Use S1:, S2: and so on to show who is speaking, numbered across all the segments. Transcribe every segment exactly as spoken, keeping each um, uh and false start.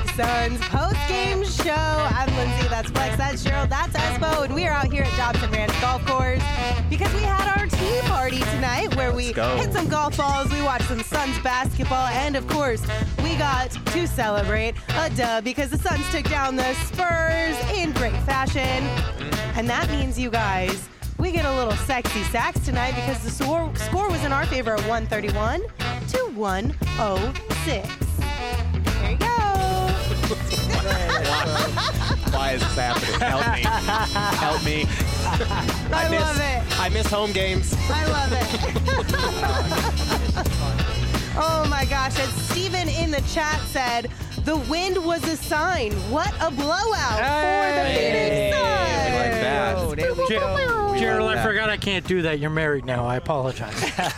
S1: Suns post-game show. I'm Lindsay, that's Flex, that's Cheryl, that's Espo, and we are out here at Dobson Ranch Golf Course because we had our tea party tonight where we hit some golf balls, we watched some Suns basketball, and of course, we got to celebrate a dub because the Suns took down the Spurs in great fashion. And that means, you guys, we get a little sexy sax tonight because the score, score was in our favor of one thirty-one to one oh six. There you go.
S2: Why is this happening? Help me. Help me.
S1: I, I
S2: miss,
S1: love it.
S2: I miss home games.
S1: I love it. Oh my gosh, and Steven in the chat said, the wind was a sign. What a blowout hey. for the Phoenix Suns.
S2: We like that.
S3: Oh, there we go.
S4: Gerald, I forgot I can't do that. You're married now. I apologize.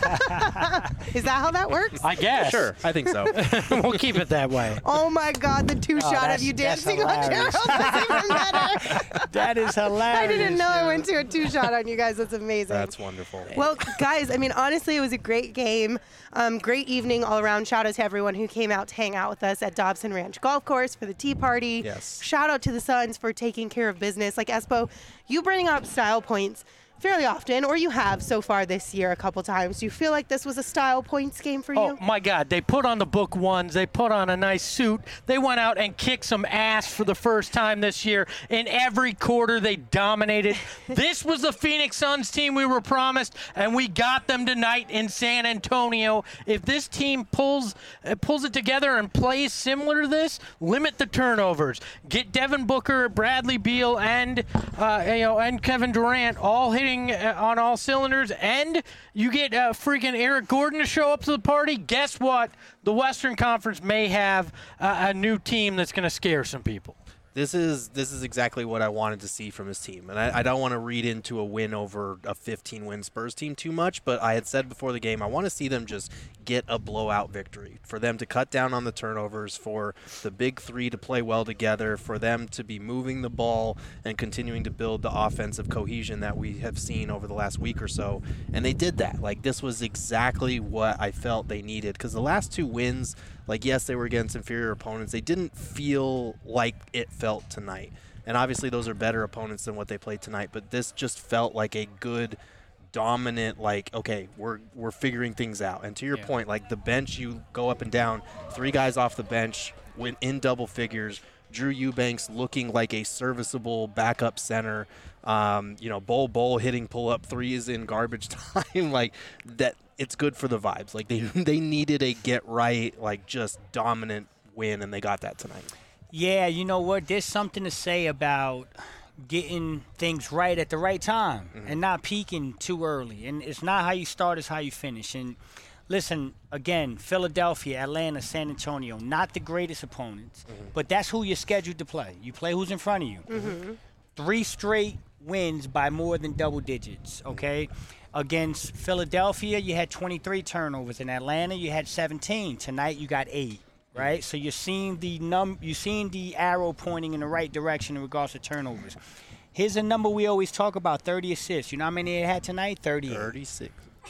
S1: Is that how that works?
S4: I guess.
S2: Sure, I think so.
S4: We'll keep it that way.
S1: Oh my God, the two
S3: Oh,
S1: shot of you dancing on
S3: hilarious.
S1: Gerald was even better.
S3: That is hilarious.
S1: I didn't know I went to a two shot on you guys. That's amazing.
S2: That's wonderful.
S1: Well, guys, I mean, honestly, it was a great game. Um, great evening all around. Shout out to everyone who came out to hang out with us at Dobson Ranch Golf Course for the tea party.
S2: Yes.
S1: Shout out to the Suns for taking care of business. Like, Espo, you bring up style points fairly often, or you have so far this year a couple times. Do you feel like this was a style points game for you?
S4: Oh, my God. They put on the book ones. They put on a nice suit. They went out and kicked some ass for the first time this year. In every quarter, they dominated. This was the Phoenix Suns team we were promised, and we got them tonight in San Antonio. If this team pulls uh, pulls it together and plays similar to this, limit the turnovers. Get Devin Booker, Bradley Beal, and uh, you know, and Kevin Durant all hitting on all cylinders, and you get uh, freaking Eric Gordon to show up to the party. Guess what? The Western Conference may have uh, a new team that's going to scare some people.
S2: This is this is exactly what I wanted to see from his team. And I, I don't want to read into a win over a fifteen-win Spurs team too much, but I had said before the game, I want to see them just get a blowout victory, for them to cut down on the turnovers, for the big three to play well together, for them to be moving the ball and continuing to build the offensive cohesion that we have seen over the last week or so. And they did that. Like, this was exactly what I felt they needed, because the last two wins, like, yes, they were against inferior opponents. They didn't feel like it felt tonight. And obviously those are better opponents than what they played tonight, but this just felt like a good, dominant, like, okay, we're we're figuring things out. And to your yeah. point, like, the bench, you go up and down, three guys off the bench went in double figures. Drew Eubanks looking like a serviceable backup center. Um, you know, Bol Bol hitting pull-up threes in garbage time. Like, that, it's good for the vibes. Like, they they needed a get-right, like, just dominant win, and they got that tonight.
S3: Yeah, you know what? There's something to say about getting things right at the right time mm-hmm. and not peaking too early. And it's not how you start, it's how you finish. And listen, again, Philadelphia, Atlanta, San Antonio, not the greatest opponents, mm-hmm. but that's who you're scheduled to play. You play who's in front of you. Mm-hmm. Three straight wins by more than double digits, okay? Mm-hmm. Against Philadelphia, you had twenty-three turnovers. In Atlanta, you had seventeen. Tonight, you got eight. Right, so you're seeing the num, you're seeing the arrow pointing in the right direction in regards to turnovers. Here's a number we always talk about: thirty assists. You know how many they had tonight? thirty-eight.
S2: Thirty-six.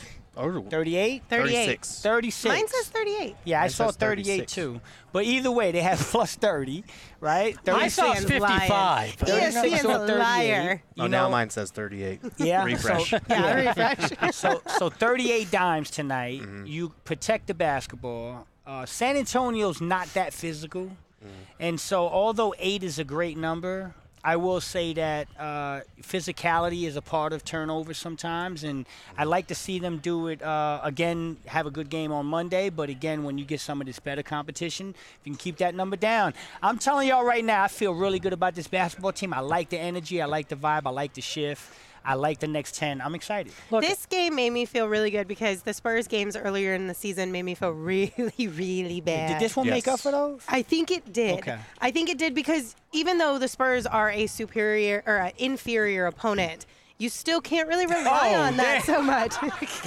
S3: Oh, thirty-eight.
S1: Thirty-eight.
S3: Thirty-six.
S1: Mine says thirty-eight.
S3: Yeah,
S2: Mine
S3: I saw thirty-eight too. But either way, they had plus thirty, right?
S4: I saw fifty-five.
S1: E S P N's a liar.
S2: Oh, now mine says thirty-eight.
S3: Yeah.
S2: Refresh.
S3: So,
S1: yeah, refresh.
S3: so, so thirty-eight dimes tonight.
S2: Mm-hmm.
S3: You protect the basketball. Uh, San Antonio's not that physical. Mm. And so although eight is a great number, I will say that uh, physicality is a part of turnovers sometimes. And I'd like to see them do it, uh, again, have a good game on Monday. But, again, when you get some of this better competition, if you can keep that number down. I'm telling y'all right now, I feel really good about this basketball team. I like the energy. I like the vibe. I like the shift. I like the next ten. I'm excited.
S1: Look, this game made me feel really good because the Spurs games earlier in the season made me feel really, really bad.
S3: Did this one
S2: yes.
S3: make up for those?
S1: I think it did.
S3: Okay.
S1: I think it did because even though the Spurs are a superior or an inferior opponent, you still can't really rely
S3: oh,
S1: on that
S3: damn.
S1: so much.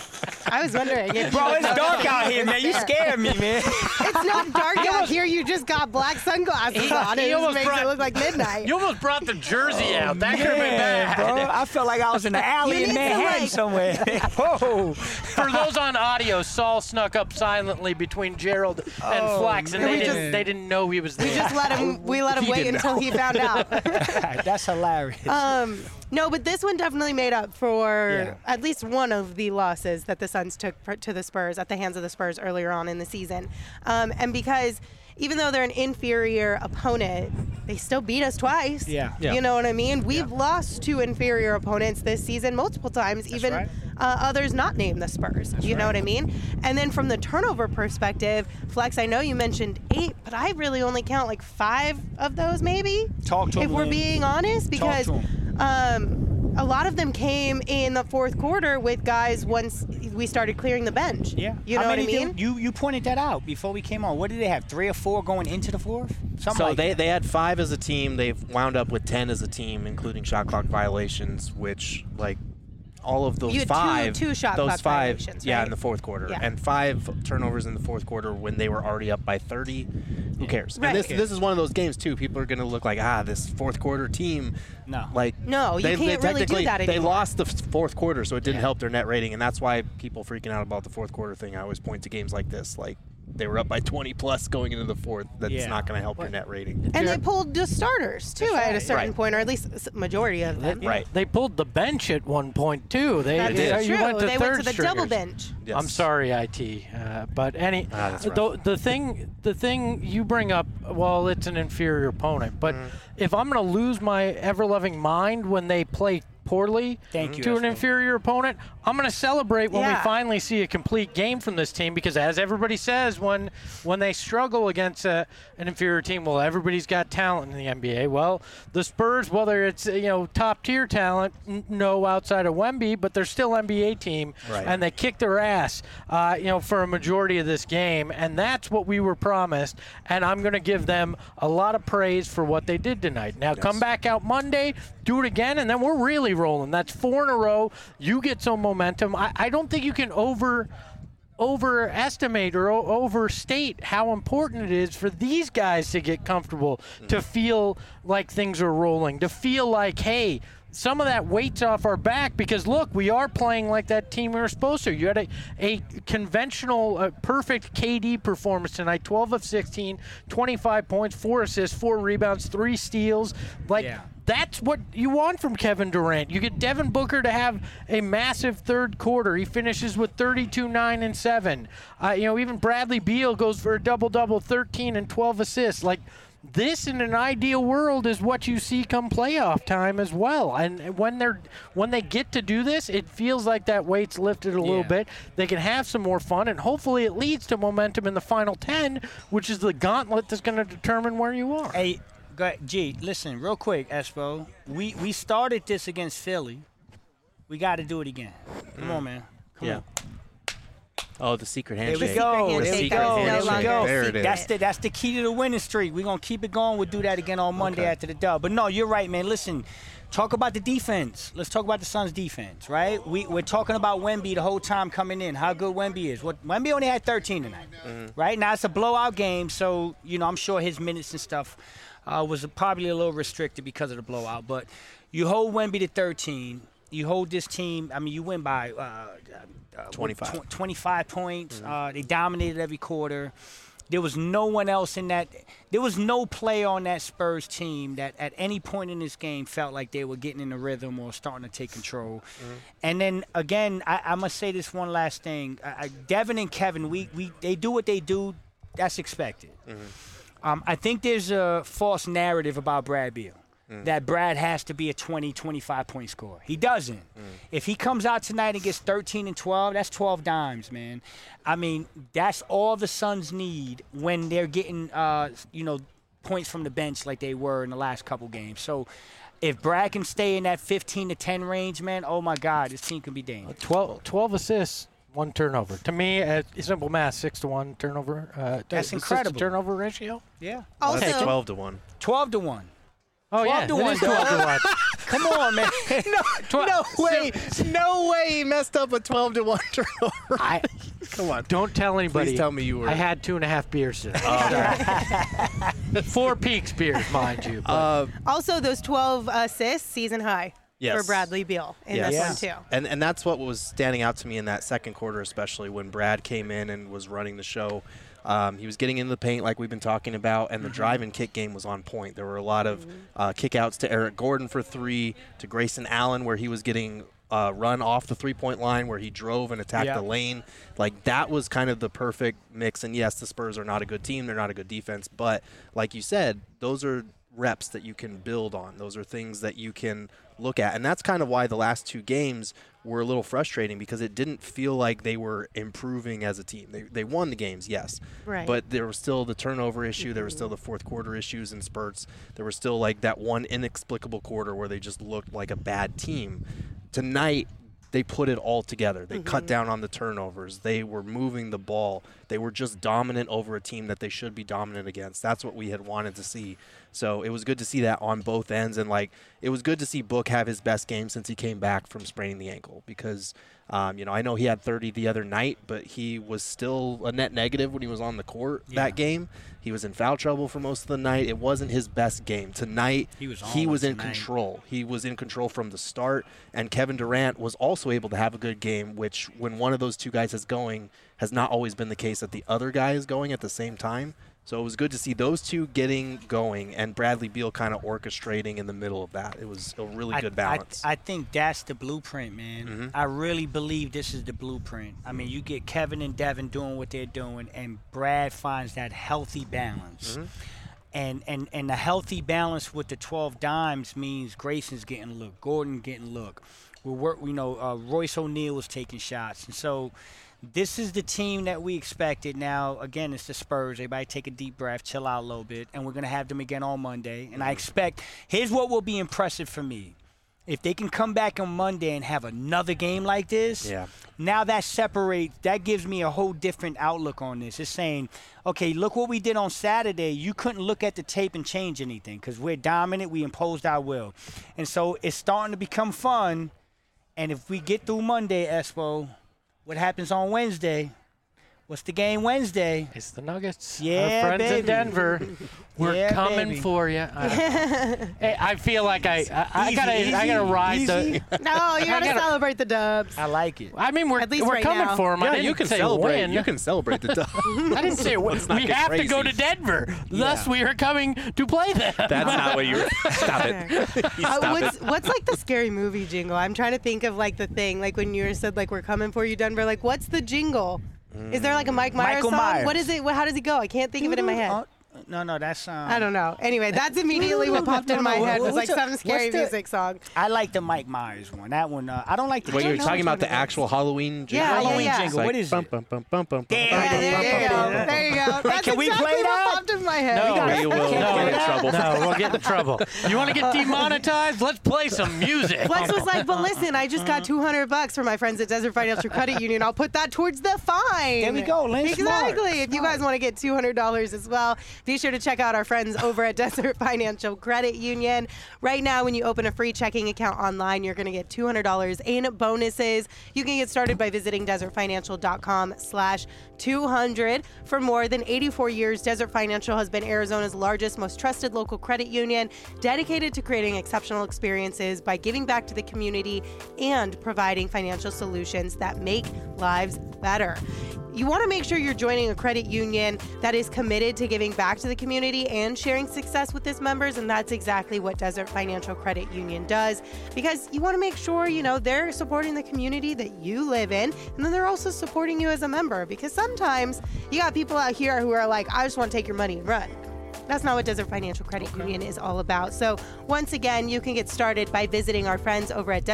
S1: I was wondering. If
S3: Bro, it's dark out here, man. You scared me, man.
S1: It's not dark out here. You just got black sunglasses
S4: He-
S1: on.
S4: he
S1: It just
S4: almost
S1: makes
S4: brought-
S1: it look like midnight.
S4: You almost brought the jersey out. That could have been
S3: Man,
S4: bad.
S3: bro, I felt like I was in the alley
S1: You
S3: in
S1: need to,
S3: Manhattan
S1: like-
S3: somewhere. Whoa.
S4: For those on audio, Saul snuck up silently between Gerald and
S3: Oh,
S4: Flex, and
S3: man.
S4: they
S1: We
S4: didn't,
S1: just-
S4: they didn't know he was there.
S1: We just let him. We let him
S2: He
S1: wait
S2: didn't
S1: until
S2: know.
S1: he found out.
S3: That's hilarious.
S1: Um, no, but this one definitely made up for
S3: Yeah.
S1: at least one of the losses that the Suns took for, to the Spurs at the hands of the Spurs earlier on in the season. Um, and because even though they're an inferior opponent, they still beat us twice.
S3: Yeah.
S2: Yeah.
S1: You know what I mean? We've lost to inferior opponents this season multiple times, even
S3: right.
S1: uh, others not named the Spurs. you know
S3: right.
S1: what I mean? And then from the turnover perspective, Flex, I know you mentioned eight, but I really only count like five of those maybe.
S3: Talk to
S1: If
S3: him,
S1: we're
S3: Lynn.
S1: being honest, because
S3: to
S1: um, a lot of them came in the fourth quarter with guys once we started clearing the bench.
S3: Yeah.
S1: You know
S3: How
S1: what I
S3: many
S1: mean?
S3: did- you you pointed that out before we came on. What did they have? Three or four going into the fourth? Something
S2: So
S3: like
S2: they,
S3: that.
S2: they had five as a team. They've wound up with ten as a team, including shot clock violations, which like all of those
S1: You had two-
S2: five,
S1: two shot
S2: those
S1: clock
S2: five,
S1: violations,
S2: yeah,
S1: right?
S2: in the fourth quarter,
S1: Yeah.
S2: and five turnovers in the fourth quarter when they were already up by thirty. Who cares?
S1: Right.
S2: And this
S1: Who
S2: this is one of those games too. People are going to look like ah, this fourth quarter team.
S3: No.
S2: Like
S1: No, you
S2: they,
S1: can't
S2: they
S1: really do
S2: technically-
S1: that
S2: They
S1: anymore.
S2: lost the f- fourth quarter, so it didn't
S3: Yeah.
S2: help their net rating, and that's why people freaking out about the fourth quarter thing. I always point to games like this, like. They were up by twenty plus going into the fourth. That's
S3: Yeah.
S2: not going to help your net rating.
S1: and they pulled the starters too
S3: That's
S1: at a
S3: right.
S1: certain
S2: Right.
S1: point, or at least a s- majority of them.
S2: Right.
S4: They pulled the bench at one point too. They,
S1: That's
S2: did.
S4: you
S1: true.
S4: went to
S1: they
S4: third
S1: went to the double
S4: stringers.
S1: bench.
S2: Yes.
S4: I'm sorry, I T. Uh, but any
S2: Ah, that's rough.
S4: the, the thing the thing you bring up, well, it's an inferior opponent. But
S2: Mm.
S4: if I'm going to lose my ever loving mind when they play poorly
S3: Thank you,
S4: to an
S3: Espo.
S4: inferior opponent, I'm going to celebrate when
S1: Yeah.
S4: we finally see a complete game from this team, because as everybody says, when when they struggle against a, an inferior team, well, everybody's got talent in the N B A. Well, the Spurs, whether it's you know top tier talent, n- no outside of Wemby, but they're still N B A team,
S2: Right.
S4: and they kicked their ass, uh, you know, for a majority of this game, and that's what we were promised. And I'm going to give them a lot of praise for what they did tonight. Now come back out Monday, do it again, and then we're really rolling. That's four in a row. You get some momentum. I, I don't think you can over overestimate or o- overstate how important it is for these guys to get comfortable, to feel like things are rolling, to feel like, hey, some of that weight's off our back, because look, we are playing like that team we were supposed to. You had a, a conventional, uh, perfect K D performance tonight, twelve of sixteen, twenty-five points, four assists, four rebounds, three steals. Like,
S3: Yeah.
S4: that's what you want from Kevin Durant. You get Devin Booker to have a massive third quarter. He finishes with thirty-two, nine, and seven. Uh, you know, even Bradley Beal goes for a double-double, thirteen and twelve assists. Like, this in an ideal world is what you see come playoff time as well. And when they're when they get to do this, it feels like that weight's lifted a little
S3: Yeah.
S4: bit. They can have some more fun, and hopefully it leads to momentum in the final ten, which is the gauntlet that's going to determine where you are.
S3: Hey, go ahead. G, listen, real quick, Espo. We we started this against Philly. We got to do it again. Come on, man. Come
S2: Yeah.
S3: on.
S2: Oh, the secret
S3: There
S2: handshake.
S3: we go.
S1: Secret
S3: There we
S1: handshake.
S3: go.
S1: That's no
S3: There we
S1: longer
S3: go.
S1: a
S2: There it
S1: secret.
S2: is.
S3: That's the that's the key to the winning streak. We're gonna keep it going. We'll do that again on Monday
S2: Okay.
S3: after the dub. But no, you're right, man. Listen, talk about the defense. Let's talk about the Suns' defense, right? We we're talking about Wemby the whole time coming in. How good Wemby is. What Wemby only had thirteen tonight, right? Now it's a blowout game, so you know I'm sure his minutes and stuff uh, was probably a little restricted because of the blowout. But you hold Wemby to thirteen. You hold this team. I mean, you win by uh, uh,
S2: twenty-five.
S3: tw- twenty-five points. Uh, they dominated every quarter. There was no one else in that. There was no player on that Spurs team that at any point in this game felt like they were getting in the rhythm or starting to take control. And then again, I, I must say this one last thing. I, I, Devin and Kevin, we we they do what they do. That's expected. Um, I think there's a false narrative about Brad Beal. That Brad has to be a twenty, twenty-five point scorer. He doesn't. If he comes out tonight and gets thirteen and twelve, that's twelve dimes, man. I mean, that's all the Suns need when they're getting, uh, you know, points from the bench like they were in the last couple games. So if Brad can stay in that fifteen to ten range, man, oh, my God, this team can be dangerous.
S4: twelve, twelve assists, one turnover. To me, uh, simple math, six to one turnover. Uh,
S3: That's
S4: assist
S3: incredible.
S4: to turnover ratio.
S3: Yeah.
S1: Also,
S2: That's twelve to one.
S3: twelve to one.
S4: Oh
S3: twelve
S4: yeah,
S3: to
S4: it
S3: one,
S4: is twelve to one.
S3: Come on, man.
S2: no,
S4: Tw-
S2: no way. No way he messed up a twelve to one turnover.
S4: I,
S2: Come on.
S4: Don't tell anybody.
S2: Please tell me you were.
S4: I had two and a half beers today. Four Peaks beers, mind you. but-
S2: Uh,
S1: Also, those twelve assists, season high
S2: Yes.
S1: for Bradley Beal in
S2: Yes.
S1: this
S3: Yeah.
S1: one too.
S2: And and that's what was standing out to me in that second quarter, especially when Brad came in and was running the show. Um, he was getting into the paint like we've been talking about, and the drive and kick game was on point. There were a lot of uh, kickouts to Eric Gordon for three, to Grayson Allen, where he was getting uh, run off the three-point line, where he drove and attacked
S3: Yeah.
S2: the lane. Like, that was kind of the perfect mix. And yes, the Spurs are not a good team. They're not a good defense. But like you said, those are reps that you can build on. Those are things that you can look at. And that's kind of why the last two games were a little frustrating, because it didn't feel like they were improving as a team. They, they won the games, yes.
S1: Right.
S2: But there was still the turnover issue. There was still the fourth quarter issues and spurts. There was still like that one inexplicable quarter where they just looked like a bad team. Tonight, they put it all together. They cut down on the turnovers. They were moving the ball. They were just dominant over a team that they should be dominant against. That's what we had wanted to see. So it was good to see that on both ends. And, like, it was good to see Book have his best game since he came back from spraining the ankle, because, um, you know, I know he had thirty the other night, but he was still a net negative when he was on the court
S3: Yeah.
S2: that game. He was in foul trouble for most of the night. It wasn't his best game. Tonight,
S3: He was on
S2: he was
S3: it
S2: in
S3: tonight.
S2: control. He was in control from the start, and Kevin Durant was also able to have a good game, which when one of those two guys is going has not always been the case that the other guy is going at the same time. So it was good to see those two getting going and Bradley Beal kind of orchestrating in the middle of that. It was a really
S3: I-
S2: good balance.
S3: I, I think that's the blueprint, man.
S2: Mhm.
S3: I really believe this is the blueprint. I mean, you get Kevin and Devin doing what they're doing, and Brad finds that healthy balance.
S2: Mhm.
S3: And, and and the healthy balance with the twelve dimes means Grayson's getting a look, Gordon getting a look. We work, you know, uh, Royce O'Neal was taking shots, and so this is the team that we expected. Now, again, it's the Spurs. Everybody take a deep breath, chill out a little bit, and we're going to have them again on Monday. And I expect, here's what will be impressive for me. If they can come back on Monday and have another game like this,
S2: Yeah.
S3: now that separates, that gives me a whole different outlook on this. It's saying, okay, look what we did on Saturday. You couldn't look at the tape and change anything because we're dominant. We imposed our will. And so it's starting to become fun. And if we get through Monday, Espo, what happens on Wednesday? What's the game Wednesday?
S4: It's the Nuggets.
S3: Yeah,
S4: Our friends
S3: baby.
S4: in Denver. We're
S3: Yeah,
S4: coming
S3: baby.
S4: for you. I, hey, I feel like I I, I
S3: Easy,
S4: gotta I
S3: easy,
S4: gotta ride
S3: easy.
S4: the.
S1: No, you gotta
S4: gotta-
S1: celebrate the dubs.
S3: I like it.
S4: I mean, we're
S1: At least
S4: we're
S1: right
S4: coming
S1: now.
S4: for them. I
S2: Yeah,
S4: didn't
S2: you can
S4: say
S2: celebrate.
S4: win.
S2: You can celebrate the dub.
S4: I didn't say win.
S2: Let's not
S4: We
S2: get
S4: have to go
S2: crazy.
S4: to Denver. Thus,
S3: Yeah.
S4: we are coming to play them.
S2: That's not what you were. Stop it. You
S1: Uh,
S2: stop
S1: what's
S2: it.
S1: what's like the scary movie jingle? I'm trying to think of like the thing, like when you said like we're coming for you, Denver. Like what's the jingle? Is there like a Mike Myers
S3: Michael
S1: song?
S3: Myers.
S1: What is it? What, how does it go? I can't think of it in my head.
S3: Uh, no, no, that's um,
S1: I don't know. Anyway, that's immediately what popped in my
S3: No, no,
S1: head was
S3: what's
S1: like
S3: the-
S1: some scary
S3: what's the-
S1: music song.
S3: I like the Mike Myers one. That one, uh, I don't like the.
S2: Wait,
S1: don't
S2: you're
S1: know
S2: talking
S1: which
S2: about
S1: one
S2: the
S1: it is.
S2: actual Halloween jingle?
S1: Yeah, yeah,
S3: Halloween
S1: yeah.
S3: jingle.
S2: Like,
S3: What is
S2: bum,
S3: it?
S2: bum, bum, bum, bum,
S3: Yeah,
S2: bum,
S1: Yeah,
S2: bum,
S1: there
S2: bum,
S1: you
S2: bum,
S1: go.
S2: bum.
S1: There you go. That's
S3: can we
S1: exactly
S3: play
S1: what
S3: that?
S1: popped in my head.
S4: No,
S1: We got
S2: we
S1: it.
S2: will
S3: Can we
S2: get in
S3: play
S2: trouble.
S3: that?
S4: No, we'll get in trouble. You want to get demonetized? Let's play some music.
S1: Flex was like, but listen, I just got two hundred bucks from my friends at Desert Financial Credit Union. I'll put that towards the fine.
S3: There we go, Lynn. Smart.
S1: Exactly. If you guys want to get two hundred dollars as well, be sure to check out our friends over at Desert Financial Credit Union. Right now, when you open a free checking account online, you're going to get two hundred dollars in bonuses. You can get started by visiting desertfinancial.com slash 200. For more than eighty-four years, Desert Financial has been Arizona's largest, most trusted local credit union, dedicated to creating exceptional experiences by giving back to the community and providing financial solutions that make lives better. You want to make sure you're joining a credit union that is committed to giving back to the community and sharing success with its members, and that's exactly what Desert Financial Credit Union does, because you want to make sure, you know, they're supporting the community that you live in, and then they're also supporting you as a member, because sometimes you got people out here who are like, I just want to take your money and run. That's not what Desert Financial Credit Union is all about. So once again, you can get started by visiting our friends over at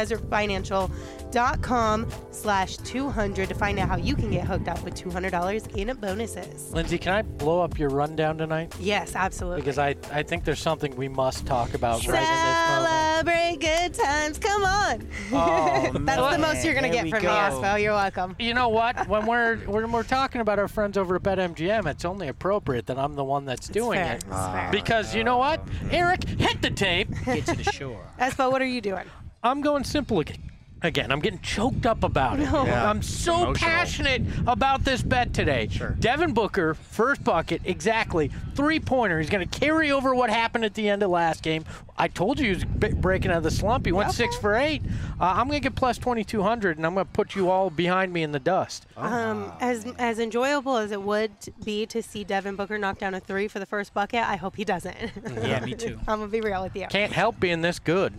S1: desertfinancial.com slash 200 to find out how you can get hooked up with two hundred dollars in bonuses.
S4: Lindsay, can I blow up your rundown tonight?
S1: Yes, absolutely.
S4: Because I, I think there's something we must talk about right in this moment.
S1: Celebrate good times. Come on.
S3: Oh,
S1: That's
S3: man.
S1: the most you're going to
S3: There
S1: get
S3: we
S1: from
S3: go.
S1: me, Aspo. You're welcome.
S4: You know what? When we're when we're talking about our friends over at BetMGM, it's only appropriate that I'm the one that's doing
S1: fair.
S4: it.
S1: fair.
S4: Because you know what? Eric, hit the tape.
S3: Get to the shore.
S1: Espo, what are you doing?
S4: I'm going simple again. Again, I'm getting choked up about it.
S1: No.
S2: Yeah.
S4: I'm so
S2: Emotional.
S4: passionate about this bet today.
S2: Sure.
S4: Devin Booker, first bucket, exactly. Three-pointer. He's going to carry over what happened at the end of last game. I told you he was b- breaking out of the slump. He went
S1: Okay.
S4: six for eight. Uh, I'm going to get plus twenty-two hundred, and I'm going to put you all behind me in the dust.
S1: Um, as as enjoyable as it would be to see Devin Booker knock down a three for the first bucket, I hope he doesn't.
S3: Yeah, me too.
S1: I'm gonna be real with you.
S4: Can't help being this good.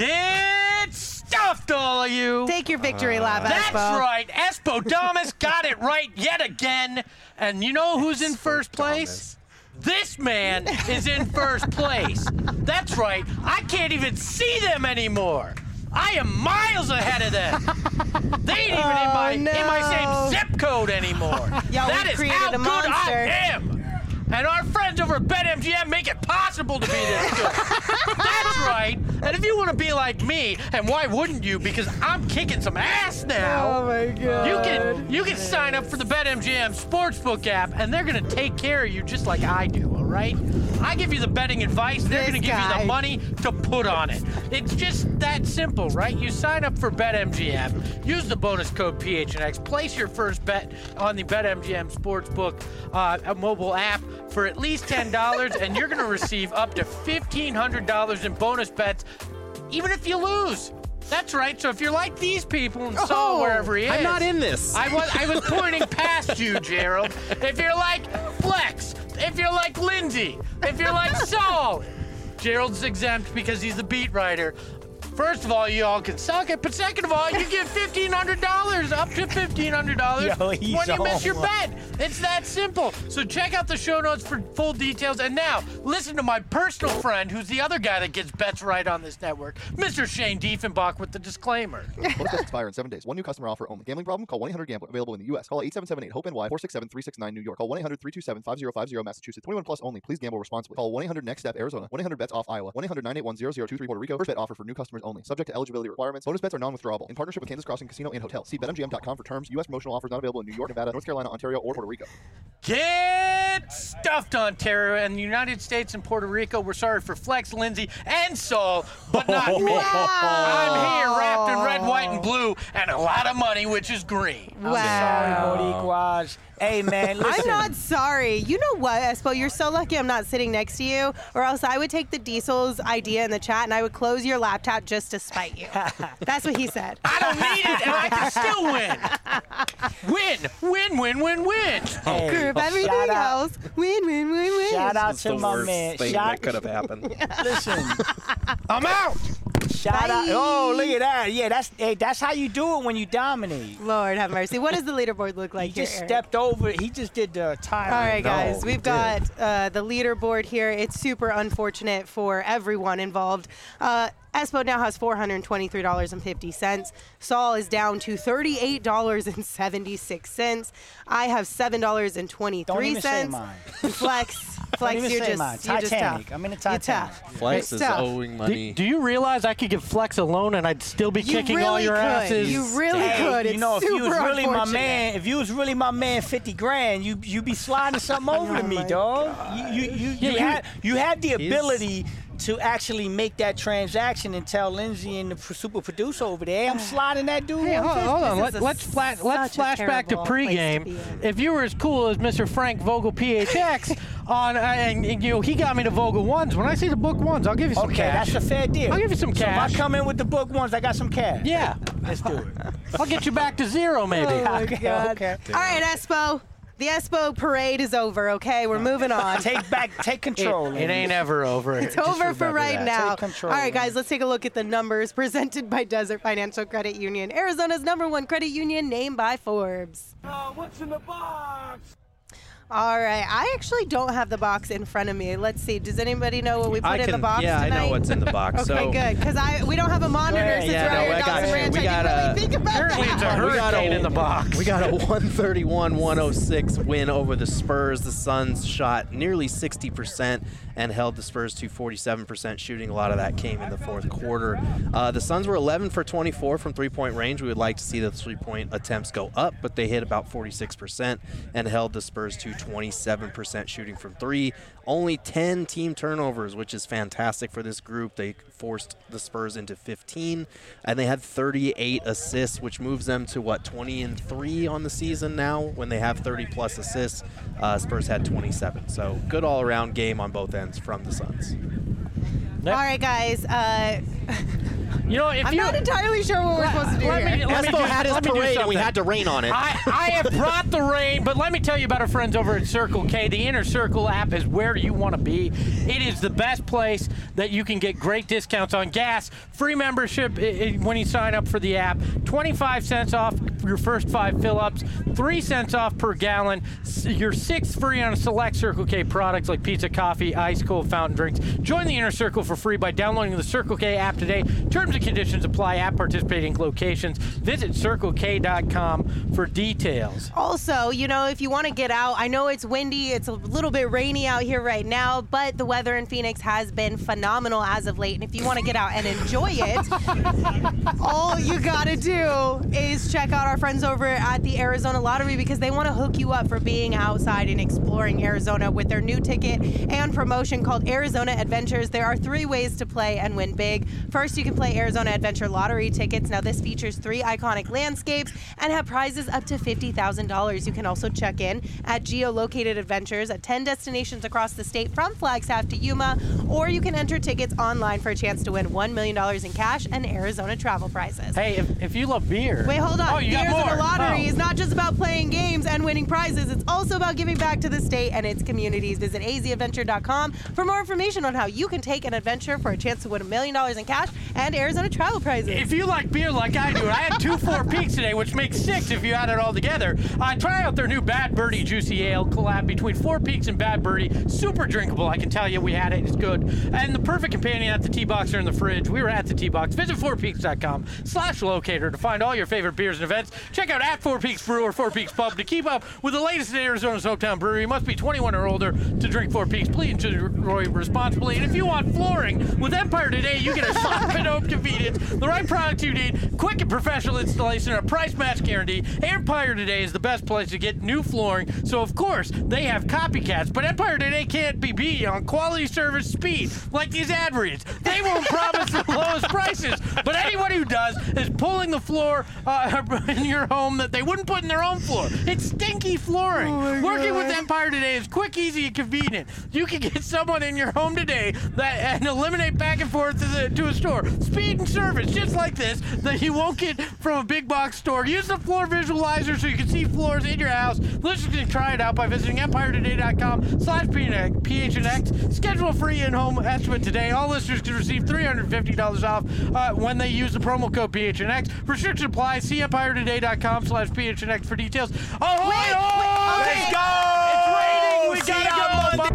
S4: Get stuffed, all of you.
S1: Take your victory lap,
S4: That's
S1: Espo.
S4: right. Espodamus got it right yet again. And you know who's in first place? This man is in first place. That's right. I can't even see them anymore. I am miles ahead of them. They ain't even in my
S1: Oh, no.
S4: in my same zip code anymore.
S1: Y'all,
S4: That
S1: we
S4: is
S1: created
S4: how
S1: a
S4: good
S1: monster.
S4: I am. And our friends over at BetMGM make it possible to be this good. That's right. And if you want to be like me, and why wouldn't you? Because I'm kicking some ass now.
S1: Oh my god.
S4: You can you can sign up for the BetMGM Sportsbook app, and they're gonna take care of you just like I do. All right? I give you the betting advice. They're
S1: This
S4: gonna give you
S1: guy.
S4: the money to put on it. It's just that simple, right? You sign up for BetMGM, use the bonus code P H N X, place your first bet on the BetMGM Sportsbook uh, mobile app for at least ten dollars, and you're gonna receive up to fifteen hundred dollars in bonus bets, even if you lose. That's right. So if you're like these people and Saul
S1: Oh,
S4: wherever he is,
S2: I'm not in this.
S4: I was I was pointing past you, Gerald. If you're like Flex, if you're like Lindsay, if you're like Saul, Gerald's exempt because he's the beat writer. First of all, you all can suck it, but second of all, you get fifteen hundred dollars, up to fifteen hundred dollars
S3: Yo,
S4: when
S3: he's
S4: you miss
S3: on
S4: your
S3: one.
S4: bet. It's that simple. So check out the show notes for full details. And now, listen to my personal friend, who's the other guy that gets bets right on this network, Mister Shane Diefenbach with the disclaimer.
S5: Bonus bets expire in seven days. One new customer offer only. Gambling problem? Call one eight hundred gambler. Available in the U S. Call eight seven seven eight hope N Y four six seven three six nine New York. Call one eight hundred three two seven five zero five zero Massachusetts. twenty-one plus only. Please gamble responsibly. Call one eight hundred next step Arizona. one eight hundred bets off Iowa. one eight hundred nine eight one zero zero two three Puerto Rico. First bet offer for new customers only. Subject to eligibility requirements. Bonus bets are non-withdrawable. In partnership with Kansas Crossing Casino and Hotel. See bet M G M dot com for terms. U S promotional offers not available in New York, Nevada, North Carolina, Ontario, or Puerto Rico.
S4: Get stuffed, Ontario, and the United States and Puerto Rico. We're sorry for Flex, Lindsay, and Saul, but not me. I'm here wrapped in red, white, and blue, and a lot of money, which is green.
S3: Sorry,
S1: Wow.
S3: Boricuas. Hey, man, listen.
S1: I'm not sorry. You know what, Espo? You're so lucky I'm not sitting next to you, or else I would take the Diesel's idea in the chat and I would close your laptop just to spite you. That's what he said.
S4: I don't need it, and I can still win. Win, win, win, win, win.
S3: Hey,
S1: Group
S3: shout
S1: everything
S3: out,
S1: else. Win, win, win, win.
S3: Shout out
S2: It's
S3: to
S2: the
S3: my
S2: worst
S3: man.
S2: thing
S3: Shout,
S2: that could have happened.
S3: listen,
S4: I'm out.
S3: shout out.
S1: Bye.
S3: Oh, look at that. Yeah, that's hey, that's how you do it when you dominate.
S1: Lord have mercy. What does the leaderboard look like
S3: He
S1: here,
S3: just
S1: Eric?
S3: stepped over. He just did the time.
S1: All right,
S2: No,
S1: guys,
S2: we
S1: we've got uh, the leaderboard here. It's super unfortunate for everyone involved. Uh, Espo now has four hundred twenty-three dollars and fifty cents. Saul is down to thirty-eight dollars and seventy-six cents. I have seven dollars and
S3: Don't
S1: twenty-three
S3: even say
S1: cents.
S3: mine.
S1: Flex,
S3: Don't
S1: Flex,
S3: even
S1: you're
S3: say
S1: just,
S3: mine.
S1: you're just
S3: Titanic.
S1: tough.
S3: I'm in a
S1: You're
S3: Titanic.
S1: tough.
S2: Flex
S1: It's
S2: is
S1: tough.
S2: owing
S4: Do,
S2: money.
S4: do you realize I could give Flex a loan and I'd still be
S1: You
S4: kicking
S1: really
S4: all your
S1: could.
S4: asses?
S1: You really
S3: Hey,
S1: could. It's
S3: you know, if you was
S1: super
S3: really my
S1: unfortunate.
S3: man, if you was really my man, fifty grand, you you be sliding something over to
S1: Oh
S3: me,
S1: my
S3: dog. You you you,
S4: Yeah,
S3: you
S4: you-
S3: had you had the
S2: He's-
S3: ability to actually make that transaction and tell Lindsay and the pr- super producer over there, hey, I'm sliding that dude.
S4: Hey, hold,
S3: over
S4: hold on.
S1: This
S4: Let,
S1: is a
S4: let's flat,
S1: such
S4: let's
S1: a
S4: flash back to
S1: terrible place to
S4: pregame.
S1: be in.
S4: If you were as cool as Mister Frank Vogel, P H X, on uh, and, and, you know he got me to Vogel ones. When I see the book ones, I'll give you some
S3: Okay,
S4: cash.
S3: that's a fair deal.
S4: I'll give you some
S3: So if I
S4: cash.
S3: come in with the book ones, I got some cash.
S4: Yeah,
S3: Let's do it.
S4: I'll get you back to zero, maybe.
S1: Oh my
S3: Okay,
S1: God.
S3: okay.
S1: All right, Espo. The Espo parade is over, okay? We're moving on.
S3: Take back, take control.
S4: It ain't ever over.
S1: It's over for right now.
S3: Take control.
S1: All right, guys, let's take a look at the numbers presented by Desert Financial Credit Union, Arizona's number one credit union, named by Forbes.
S6: What's in the box?
S1: All right, I actually don't have the box in front of me. Let's see. Does anybody know what we put
S2: I
S1: in
S2: can,
S1: the box
S2: yeah,
S1: tonight?
S2: I know what's in the box.
S1: Okay,
S2: so
S1: good, because I we don't have a monitor
S3: ahead.
S1: since
S2: Yeah,
S1: we're
S2: no,
S1: out here
S2: I
S1: at
S2: got
S1: Dawson
S2: you.
S1: Ranch.
S2: We
S1: I
S2: got
S1: didn't
S2: a-
S1: really think about
S4: Apparently it's a
S1: that.
S2: We got
S4: hurricane
S2: a-
S4: in the box.
S2: We got a one thirty-one one oh six win over the Spurs. The Suns shot nearly sixty percent and held the Spurs to forty-seven percent shooting. A lot of that came in the fourth quarter. Uh, the Suns were eleven for twenty-four from three-point range. We would like to see the three-point attempts go up, but they hit about forty-six percent and held the Spurs to twenty-seven percent shooting from three. Only ten team turnovers, which is fantastic for this group. They forced the Spurs into fifteen, and they had thirty-eight assists, which moves them to, what, twenty and three on the season now when they have thirty-plus assists. Uh, Spurs had twenty-seven. So good all-around game on both ends from the Suns.
S1: All right, guys. Uh,
S4: You know, if
S1: I'm
S4: you,
S1: not entirely sure what we're supposed to do
S4: let
S1: here.
S4: me, let me
S2: Espo
S4: do,
S2: had his
S4: let me do
S2: parade, and we
S4: something.
S2: had to rain on it.
S4: I, I have brought the rain, but let me tell you about our friends over at Circle K. The Inner Circle app is where you want to be. It is the best place that you can get great discounts on gas, free membership i- i- when you sign up for the app, twenty-five cents off your first five fill-ups, three cents off per gallon, s- your sixth free on select Circle K products like pizza, coffee, ice cold fountain drinks. Join the Inner Circle for free by downloading the Circle K app today. Terms and conditions apply at participating locations. Visit circle k dot com for details.
S1: Also, you know, if you want to get out, I know it's windy, it's a little bit rainy out here right now, but the weather in Phoenix has been phenomenal as of late. And if you want to get out and enjoy it, all you got to do is check out our friends over at the Arizona Lottery, because they want to hook you up for being outside and exploring Arizona with their new ticket and promotion called Arizona Adventures. There are three ways to play and win big. First, you can play Arizona Adventure Lottery tickets. Now, this features three iconic landscapes and have prizes up to fifty thousand dollars. You can also check in at geolocated adventures at ten destinations across the state from Flagstaff to Yuma, or you can enter tickets online for a chance to win one million dollars in cash and Arizona travel prizes.
S4: Hey, if, if you love beer.
S1: Wait, hold on.
S4: Oh, you
S1: the
S4: got
S1: Arizona
S4: more.
S1: Lottery
S4: Oh.
S1: is not just about playing games and winning prizes. It's also about giving back to the state and its communities. Visit a z adventure dot com for more information on how you can take an adventure for a chance to win a million dollars in cash and Arizona travel prizes.
S4: If you like beer like I do, I had two Four Peaks today, which makes six if you add it all together. Uh, try out their new Bad Birdie Juicy Ale collab between Four Peaks and Bad Birdie. Super drinkable, I can tell you. We had it. It's good. And the perfect companion at the T-Box or in the fridge. We were at the T-Box. Visit four peaks dot com slash locator to find all your favorite beers and events. Check out at Four Peaks Brew or Four Peaks Pub to keep up with the latest in Arizona's hometown brewery. You must be twenty-one or older to drink Four Peaks. Please enjoy responsibly. And if you want flooring, with Empire Today, you get a soft and home convenience, the right product you need, quick and professional installation, and a price match guarantee. Empire Today is the best place to get new flooring. So, of course, they have copycats, but Empire Today can't be beat on quality, service, speed, like these ad reads. They won't promise the lowest prices, but anyone who does is pulling the floor uh, in your home that they wouldn't put in their own floor. It's stinky flooring.
S1: Oh
S4: Working with Empire Today is quick, easy, and convenient. You can get someone in your home today that and eliminate back and forth to, the, to a store. Speed and service, just like this, that you won't get from a big box store. Use the floor visualizer so you can see floors in your house. Listeners can try it out by visiting empire today dot com slash P H N X. Schedule a free in-home estimate today. All listeners can receive three hundred fifty dollars off uh, when they use the promo code P H N X. Restriction applies. See empire today dot com slash P H N X for details. Oh,
S1: Wait,
S4: oh,
S1: wait,
S4: let's
S1: okay.
S4: go! It's raining. We
S2: See
S4: gotta
S2: ya.